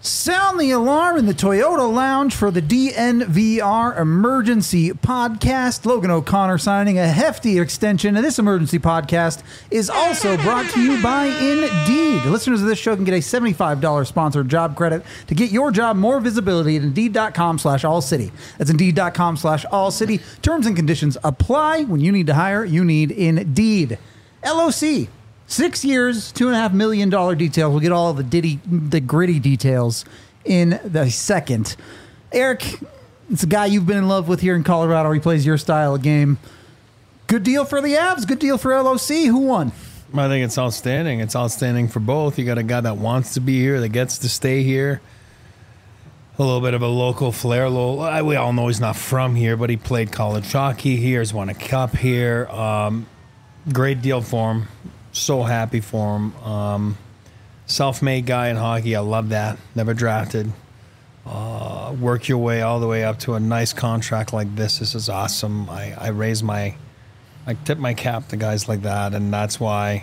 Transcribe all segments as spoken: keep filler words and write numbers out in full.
Sound the alarm in the Toyota Lounge for the D N V R Emergency Podcast. Logan O'Connor signing a hefty extension. And this emergency podcast is also brought to you by Indeed. Listeners of this show can get a seventy-five dollars sponsored job credit to get your job more visibility at Indeed.com slash All City. That's Indeed.com slash All City. Terms and conditions apply. When you need to hire, you need Indeed. L O C. Six years, two and a half million dollar details. We'll get all the ditty, the gritty details in the second. Eric, it's a guy you've been in love with here in Colorado. He plays your style of game. Good deal for the Avs. Good deal for L O C. Who won? I think it's outstanding. It's outstanding for both. You got a guy that wants to be here, that gets to stay here. A little bit of a local flair. A little, we all know he's not from here, but he played college hockey here. He's won a cup here. Um, great deal for him. So happy for him. Um, self-made guy in hockey. I love that. Never drafted. Uh, work your way all the way up to a nice contract like this. This is awesome. I, I raise my, I tip my cap to guys like that, and that's why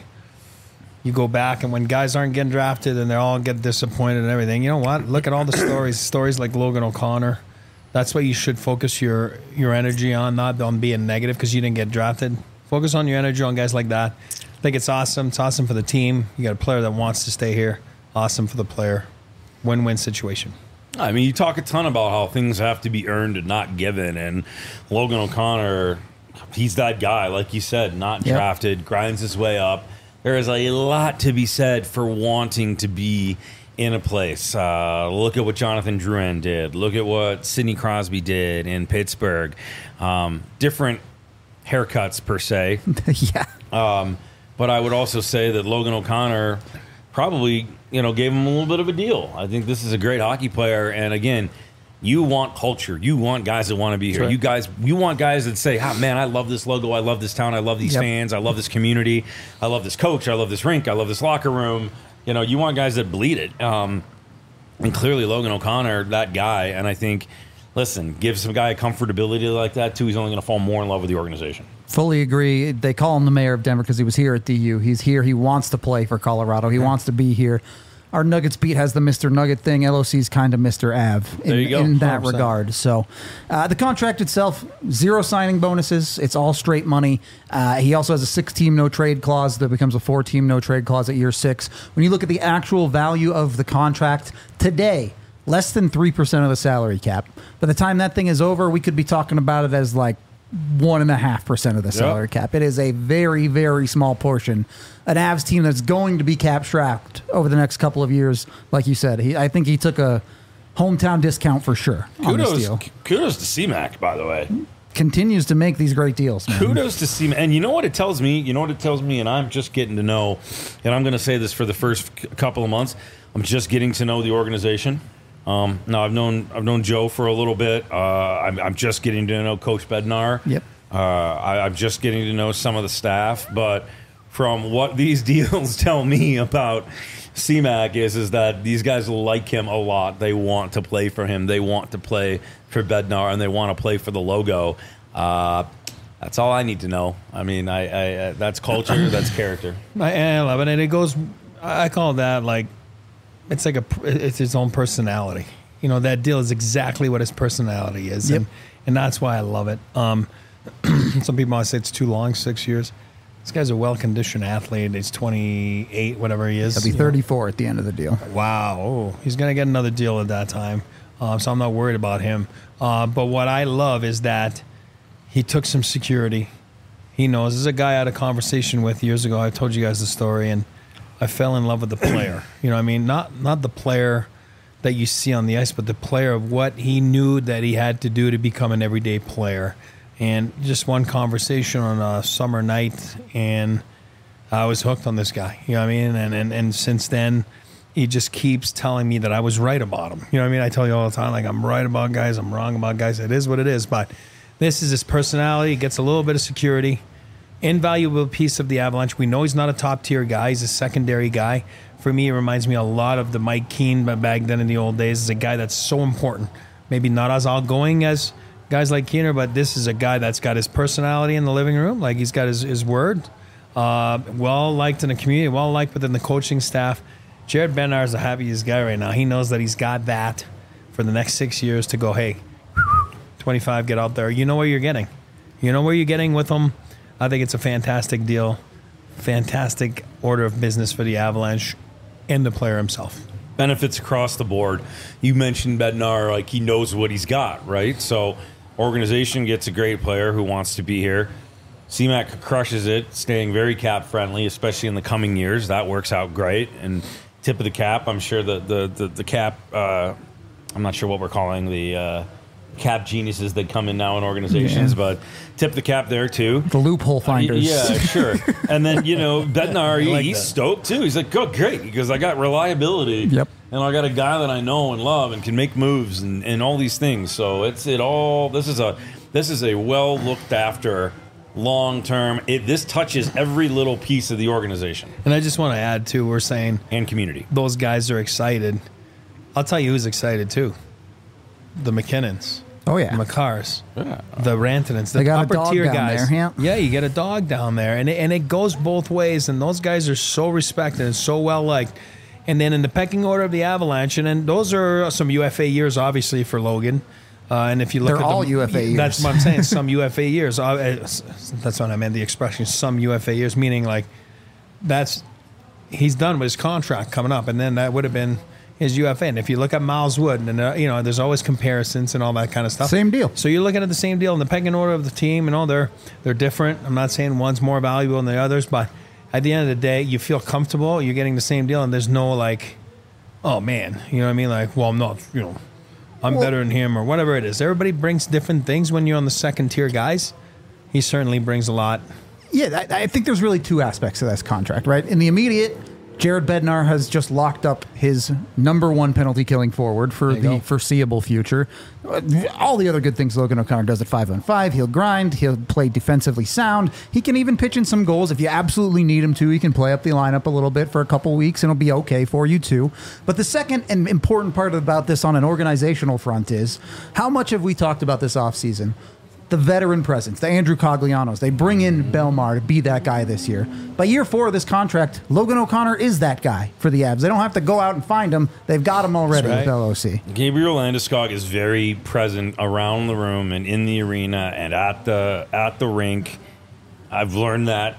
you go back and when guys aren't getting drafted and they all get disappointed and everything, you know what? Look at all the stories. Stories like Logan O'Connor. That's what you should focus your your energy on, not on being negative because you didn't get drafted. Focus on your energy on guys like that. I think it's awesome. It's awesome for the team. You got a player that wants to stay here. Awesome for the player. Win-win situation. I mean, you talk a ton about how things have to be earned and not given. And Logan O'Connor, he's that guy, like you said, not yep. drafted, grinds his way up. There is a lot to be said for wanting to be in a place. Uh, look at what Jonathan Drouin did. Look at what Sidney Crosby did in Pittsburgh. Um, different haircuts, per se. yeah. Um But I would also say that Logan O'Connor probably, you know, gave him a little bit of a deal. I think this is a great hockey player. And again, you want culture. You want guys that want to be here. Right. You guys, you want guys that say, "Ah, man, I love this logo. I love this town. I love these yep. fans. I love this community. I love this coach. I love this rink. I love this locker room." You know, you want guys that bleed it. Um, and clearly, Logan O'Connor, that guy. And I think, listen, give some guy a comfortability like that too. He's only going to fall more in love with the organization. Fully agree. They call him the mayor of Denver because he was here at D U. He's here. He wants to play for Colorado. He yeah. wants to be here. Our Nuggets beat has the Mister Nugget thing. L O C's kind of Mister Av in, in that one hundred percent regard. So uh, the contract itself, zero signing bonuses. It's all straight money. Uh, he also has a six-team no-trade clause that becomes a four-team no-trade clause at year six. When you look at the actual value of the contract today, less than three percent of the salary cap. By the time that thing is over, we could be talking about it as like one and a half percent of the salary yep. cap. It is a very, very small portion. An Avs team that's going to be cap strapped over the next couple of years, like you said. He, I think he took a hometown discount for sure. Kudos, on this deal. Kudos to C-Mac, by the way. Continues to make these great deals. Man. Kudos to C-Mac. And you know what it tells me? You know what it tells me? And I'm just getting to know, and I'm going to say this for the first couple of months, I'm just getting to know the organization. Um, no, I've known I've known Joe for a little bit. Uh, I'm, I'm just getting to know Coach Bednar. Yep. Uh, I, I'm just getting to know some of the staff. But from what these deals tell me about C-Mac is is that these guys like him a lot. They want to play for him. They want to play for Bednar, and they want to play for the logo. Uh, that's all I need to know. I mean, I, I, I that's culture. That's character. I, I love it, and it goes. I call that like. It's like a, it's his own personality. You know, that deal is exactly what his personality is. Yep. And, and that's why I love it. Um, some people might say it's too long, six years. This guy's a well-conditioned athlete. He's twenty-eight, whatever he is. He'll be thirty-four know. At the end of the deal. Wow. Oh, he's going to get another deal at that time. Um, so I'm not worried about him. Uh, but what I love is that he took some security. He knows. This is a guy I had a conversation with years ago. I told you guys the story, and I fell in love with the player. You know what I mean? Not not the player that you see on the ice, but the player of what he knew that he had to do to become an everyday player. And just one conversation on a summer night, and I was hooked on this guy. You know what I mean? And and, and since then, he just keeps telling me that I was right about him. You know what I mean? I tell you all the time, like, I'm right about guys, I'm wrong about guys. It is what it is. But this is his personality. He gets a little bit of security. Invaluable piece of the Avalanche. We know he's not a top-tier guy. He's a secondary guy. For me, it reminds me a lot of the Mike Keane back then in the old days. He's a guy that's so important. Maybe not as outgoing as guys like Keener, but this is a guy that's got his personality in the living room. Like, he's got his, his word. Uh, well-liked in the community, well-liked within the coaching staff. Jared Bednar is the happiest guy right now. He knows that he's got that for the next six years to go, hey, twenty-five, get out there. You know what you're getting. You know where you're getting with him. I think it's a fantastic deal. Fantastic order of business for the Avalanche and the player himself. Benefits across the board. You mentioned Bednar, like he knows what he's got, right? So organization gets a great player who wants to be here. C MAC crushes it, staying very cap friendly, especially in the coming years. That works out great. And tip of the cap, I'm sure the the the, the cap. Uh, I'm not sure what we're calling the uh, cap geniuses that come in now in organizations, yeah. but tip the cap there too. The loophole finders. Uh, yeah, sure. And then you know Bednar, he, like he's that. stoked too. He's like, "Oh, great," because I got reliability. Yep. And I got a guy that I know and love and can make moves and, and all these things. So it's it all. This is a this is a well looked after, long term. It this touches every little piece of the organization. And I just want to add too. We're saying and community. Those guys are excited. I'll tell you who's excited too. The McKinnons. Oh yeah, the McCars, yeah. the Rantanens, the they got upper a dog tier down guys. There, yeah. yeah, you get a dog down there, and it, and it goes both ways. And those guys are so respected and so well liked. And then in the pecking order of the Avalanche, and then those are some U F A years, obviously for Logan. Uh, and if you look They're at all the, U F A years. That's what I'm saying. Some U F A years. Uh, that's what I meant. The expression "some U F A years," meaning like that's he's done with his contract coming up, and then that would have been his U F A. And if you look at Miles Wood, and uh, you know, there's always comparisons and all that kind of stuff. Same deal. So you're looking at the same deal in the pecking order of the team, and all they're they're different. I'm not saying one's more valuable than the others, but at the end of the day, you feel comfortable. You're getting the same deal, and there's no like, oh man, you know what I mean? Like, well, I'm not, you know, I'm well, better than him or whatever it is. Everybody brings different things when you're on the second tier guys. He certainly brings a lot. Yeah, I, I think there's really two aspects to this contract, right? In the immediate, Jared Bednar has just locked up his number one penalty killing forward for the go. foreseeable future. All the other good things Logan O'Connor does at five on five. He'll grind. He'll play defensively sound. He can even pitch in some goals if you absolutely need him to. He can play up the lineup a little bit for a couple weeks, and it'll be okay for you too. But the second and important part about this on an organizational front is how much have we talked about this offseason? The veteran presence, the Andrew Coglianos. They bring in Belmar to be that guy this year. By year four of this contract, Logan O'Connor is that guy for the Avs. They don't have to go out and find him. They've got him already right. with L O C. Gabriel Landeskog is very present around the room and in the arena and at the at the rink. I've learned that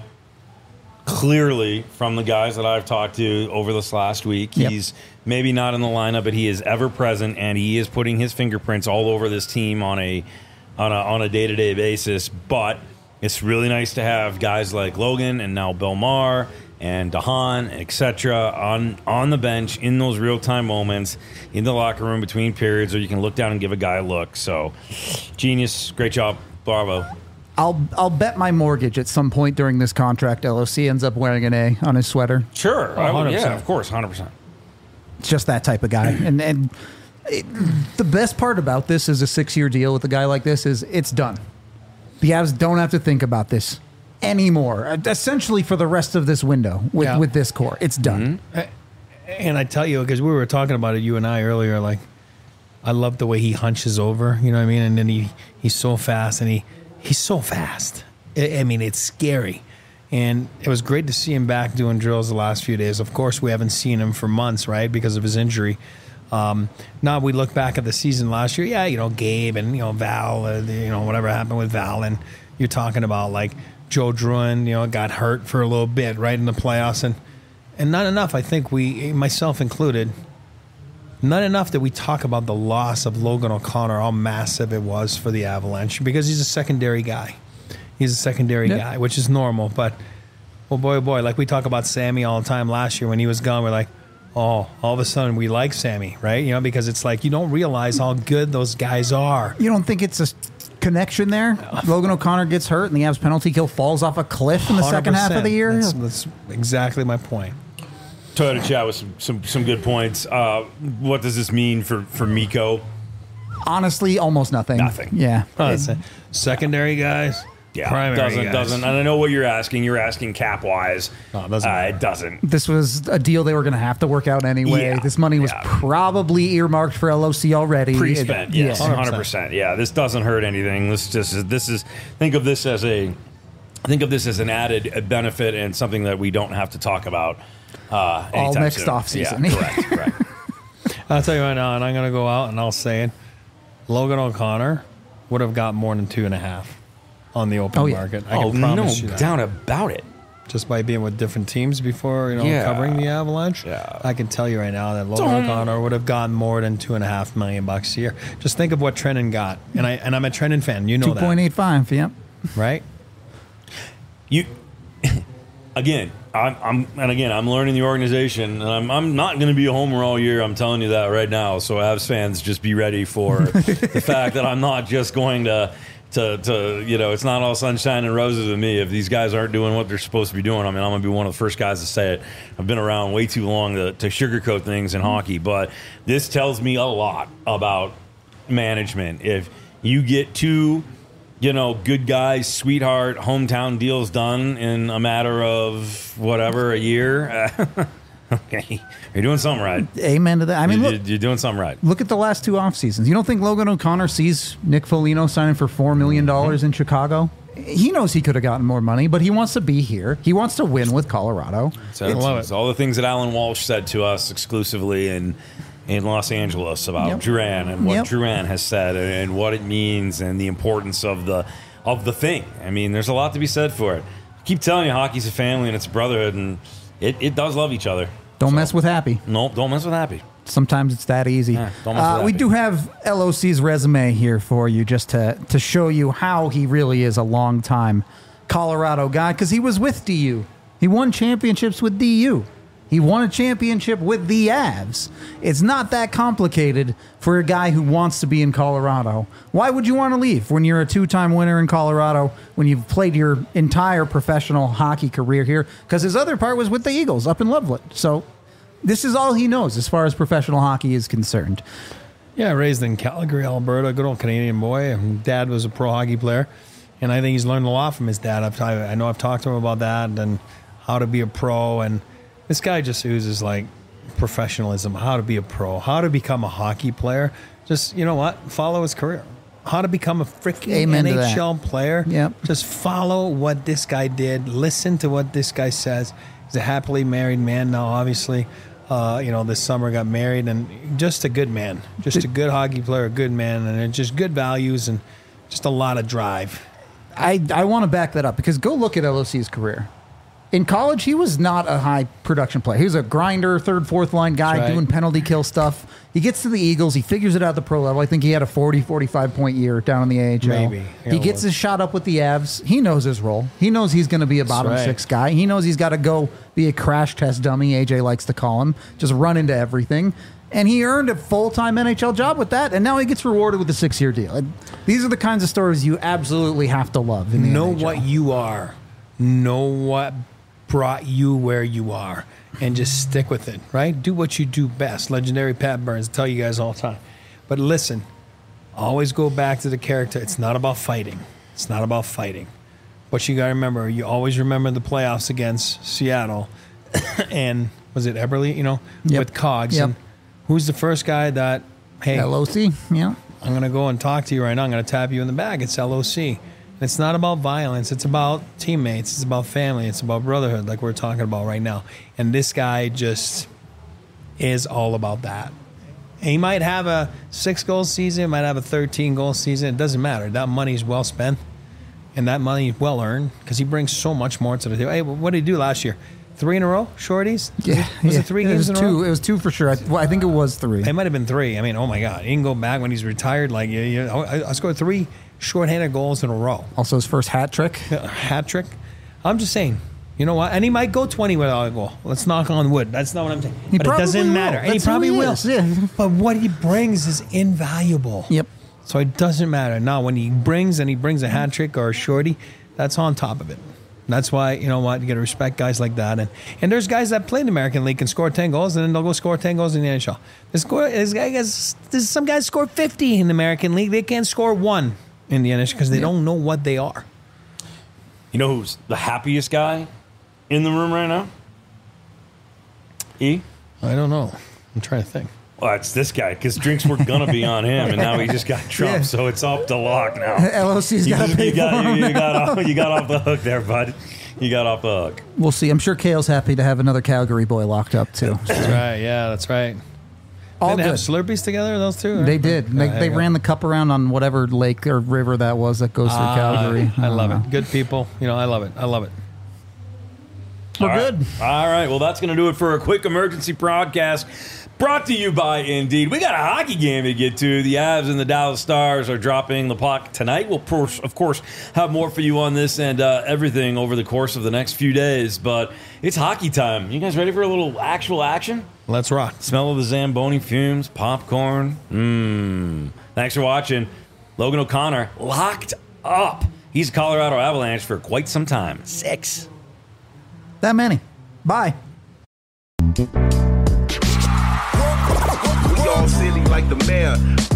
clearly from the guys that I've talked to over this last week. Yep. He's maybe not in the lineup, but he is ever present, and he is putting his fingerprints all over this team on a on a on a day-to-day basis. But it's really nice to have guys like Logan and now Belmar and Dahan, et cetera, on on the bench in those real-time moments in the locker room between periods, or you can look down and give a guy a look. So, genius, great job, bravo. I'll I'll bet my mortgage at some point during this contract L O C ends up wearing an A on his sweater. Sure, oh, I would, yeah, of course, one hundred percent. It's just that type of guy, and and. It, the best part about this is a six-year deal with a guy like this is it's done. The Avs don't have to think about this anymore. Essentially, for the rest of this window with, yeah. with this core, it's done. Mm-hmm. And I tell you, because we were talking about it, you and I earlier, like I love the way he hunches over. You know what I mean? And then he he's so fast, and he he's so fast. I, I mean, it's scary. And it was great to see him back doing drills the last few days. Of course, we haven't seen him for months, right, because of his injury. Um, now we look back at the season last year. Yeah, you know, Gabe and, you know, Val, uh, you know, whatever happened with Val. And you're talking about like Joe Druin, you know, got hurt for a little bit right in the playoffs. And, and not enough, I think we, myself included, not enough that we talk about the loss of Logan O'Connor, how massive it was for the Avalanche, because he's a secondary guy. He's a secondary yep. guy, which is normal. But, well, boy, oh boy, like we talk about Sammy all the time last year when he was gone, we're like, oh, all of a sudden we like Sammy, right? You know, because it's like you don't realize how good those guys are. You don't think it's a connection there? Logan O'Connor gets hurt and the Avs penalty kill falls off a cliff in the second half of the year? That's, that's exactly my point. Toyota chat with some, some, some good points. Uh, what does this mean for, for Mikko? Honestly, almost nothing. Nothing. Yeah. Oh, it, secondary guys. Yeah, primary doesn't guys. doesn't. And I know what you're asking. You're asking cap wise. No, it doesn't. Uh, it doesn't. This was a deal they were going to have to work out anyway. Yeah, this money was yeah. probably earmarked for L O C already. Pre-spent, it, yes, one hundred percent. Yeah, this doesn't hurt anything. This just this is think of this as a think of this as an added benefit and something that we don't have to talk about uh, all next soon. off season. Yeah, correct, correct. I'll tell you right now, and I'm going to go out and I'll say it. Logan O'Connor would have got more than two and a half on the open oh, yeah. market. I oh, can promise no you that. doubt about it. Just by being with different teams before, you know, Yeah. covering the Avalanche, Yeah. I can tell you right now that Logan Don't. O'Connor would have gotten more than two and a half million bucks a year. Just think of what Trenton got, and I and I'm a Trenton fan. You know Two that, point eight five. Yep. right? You again, I'm, I'm and again, I'm learning the organization, and I'm I'm not going to be a homer all year. I'm telling you that right now. So, Avs fans, just be ready for the fact that I'm not just going to. To, to you know, it's not all sunshine and roses with me. If these guys aren't doing what they're supposed to be doing, I mean, I'm going to be one of the first guys to say it. I've been around way too long to, to sugarcoat things in hockey, but this tells me a lot about management. If you get two, you know, good guys, sweetheart, hometown deals done in a matter of whatever, a year, okay, you're doing something right. Amen to that. I mean, you're, look, you're doing something right. look at the last two off seasons. You don't think Logan O'Connor sees Nick Foligno signing for four million dollars in Chicago? He knows he could have gotten more money, but he wants to be here. He wants to win with Colorado. So it's, it's all the things that Alan Walsh said to us exclusively in in Los Angeles about Yep. Duran and what Yep. Duran has said and, and what it means and the importance of the of the thing. I mean, there's a lot to be said for it. I keep telling you, hockey's a family and it's a brotherhood, and it, it does love each other. Don't So, mess with Happy. No, don't mess with Happy. Sometimes it's that easy. Yeah, don't mess uh, with we Happy. do have L O C's resume here for you just to, to show you how he really is a long-time Colorado guy, because he was with D U. He won championships with D U. He won a championship with the Avs. It's not that complicated for a guy who wants to be in Colorado. Why would you want to leave when you're a two-time winner in Colorado, when you've played your entire professional hockey career here? Because his other part was with the Eagles up in Loveland. So this is all he knows as far as professional hockey is concerned. Yeah, raised in Calgary, Alberta, good old Canadian boy. Dad was a pro hockey player, and I think he's learned a lot from his dad. I've, I know I've talked to him about that and how to be a pro, and this guy just oozes like professionalism, how to be a pro, how to become a hockey player. Just, you know what, follow his career. How to become a freaking Amen N H L to that. player. Yep. Just follow what this guy did. Listen to what this guy says. He's a happily married man now, obviously. Uh, you know, this summer got married, and just a good man. Just a good hockey player, a good man, and just good values and just a lot of drive. I, I want to back that up because go look at L O C's career. In college, he was not a high production player. He was a grinder, third, fourth line guy That's right. doing penalty kill stuff. He gets to the Eagles. He figures it out at the pro level. I think he had a forty, forty-five point year down in the A H L. Maybe. Yeah, He gets well. his shot up with the Avs. He knows his role. He knows he's going to be a bottom right. six guy. He knows he's got to go be a crash test dummy, A J likes to call him, just run into everything. And he earned a full-time N H L job with that, and now he gets rewarded with a six-year deal. And these are the kinds of stories you absolutely have to love in the Know N H L. what you are. Know what brought you where you are, and just stick with it, right? Do what you do best. Legendary Pat Burns, I tell you guys all the time. But listen, always go back to the character. It's not about fighting. It's not about fighting. But you got to remember, you always remember the playoffs against Seattle and was it Eberle, you know, Yep. with Cogs. Yep. And who's the first guy that, hey, L O C, yeah. I'm going to go and talk to you right now. I'm going to tap you in the back. It's L O C. It's not about violence. It's about teammates. It's about family. It's about brotherhood, like we're talking about right now. And this guy just is all about that. And he might have a six-goal season. He might have a thirteen-goal season. It doesn't matter. That money's well spent, and that money is well earned because he brings so much more to the table. Hey, what did he do last year? Three in a row, shorties? Yeah, Was yeah. it three It games was in a two. row? It was two for sure. I, well, I think it was three. It might have been three. I mean, oh my God, he can go back when he's retired. Like, you, you, I, I scored three shorthanded goals in a row, Also, his first hat trick. a hat trick. I'm just saying, you know what? And he might go twenty without a goal. Let's knock on wood. That's not what I'm saying. He but it probably doesn't will. matter. And he That's who probably he will. is, yeah. But what he brings is invaluable. Yep. So it doesn't matter. Now, when he brings and he brings a hat trick or a shorty, that's on top of it. That's why, you know what, you got to respect guys like that. And and there's guys that play in the American League and score ten goals, and then they'll go score ten goals in the N H L. This, score, this guy gets, this, some guys score fifty in the American League. They can't score one in the N H L because they Yep. don't know what they are. You know who's the happiest guy in the room right now? E? I don't know. I'm trying to think. Well, it's this guy because drinks were gonna be on him, and now he just got Trump, yeah. so it's off the lock now. L O C's got to pay you for got, him you, you, got off, you got off the hook there, bud. You got off the hook. We'll see. I'm sure Kale's happy to have another Calgary boy locked up too. That's right. Yeah, that's right. All did they good. have Slurpees together, those two? Right? They did. They, they ran the cup around on whatever lake or river that was that goes through uh, Calgary. I, I love know. it. Good people. You know, I love it. I love it. We're All good. Right. All right. Well, that's going to do it for a quick emergency broadcast brought to you by Indeed. We got a hockey game to get to. The Avs and the Dallas Stars are dropping the puck tonight. We'll, of course, have more for you on this and uh, everything over the course of the next few days. But it's hockey time. You guys ready for a little actual action? Let's rock. Smell of the Zamboni fumes, popcorn. Mmm. Thanks for watching. Logan O'Connor locked up. He's a Colorado Avalanche for quite some time. Six. That many. Bye. We all silly like the mayor.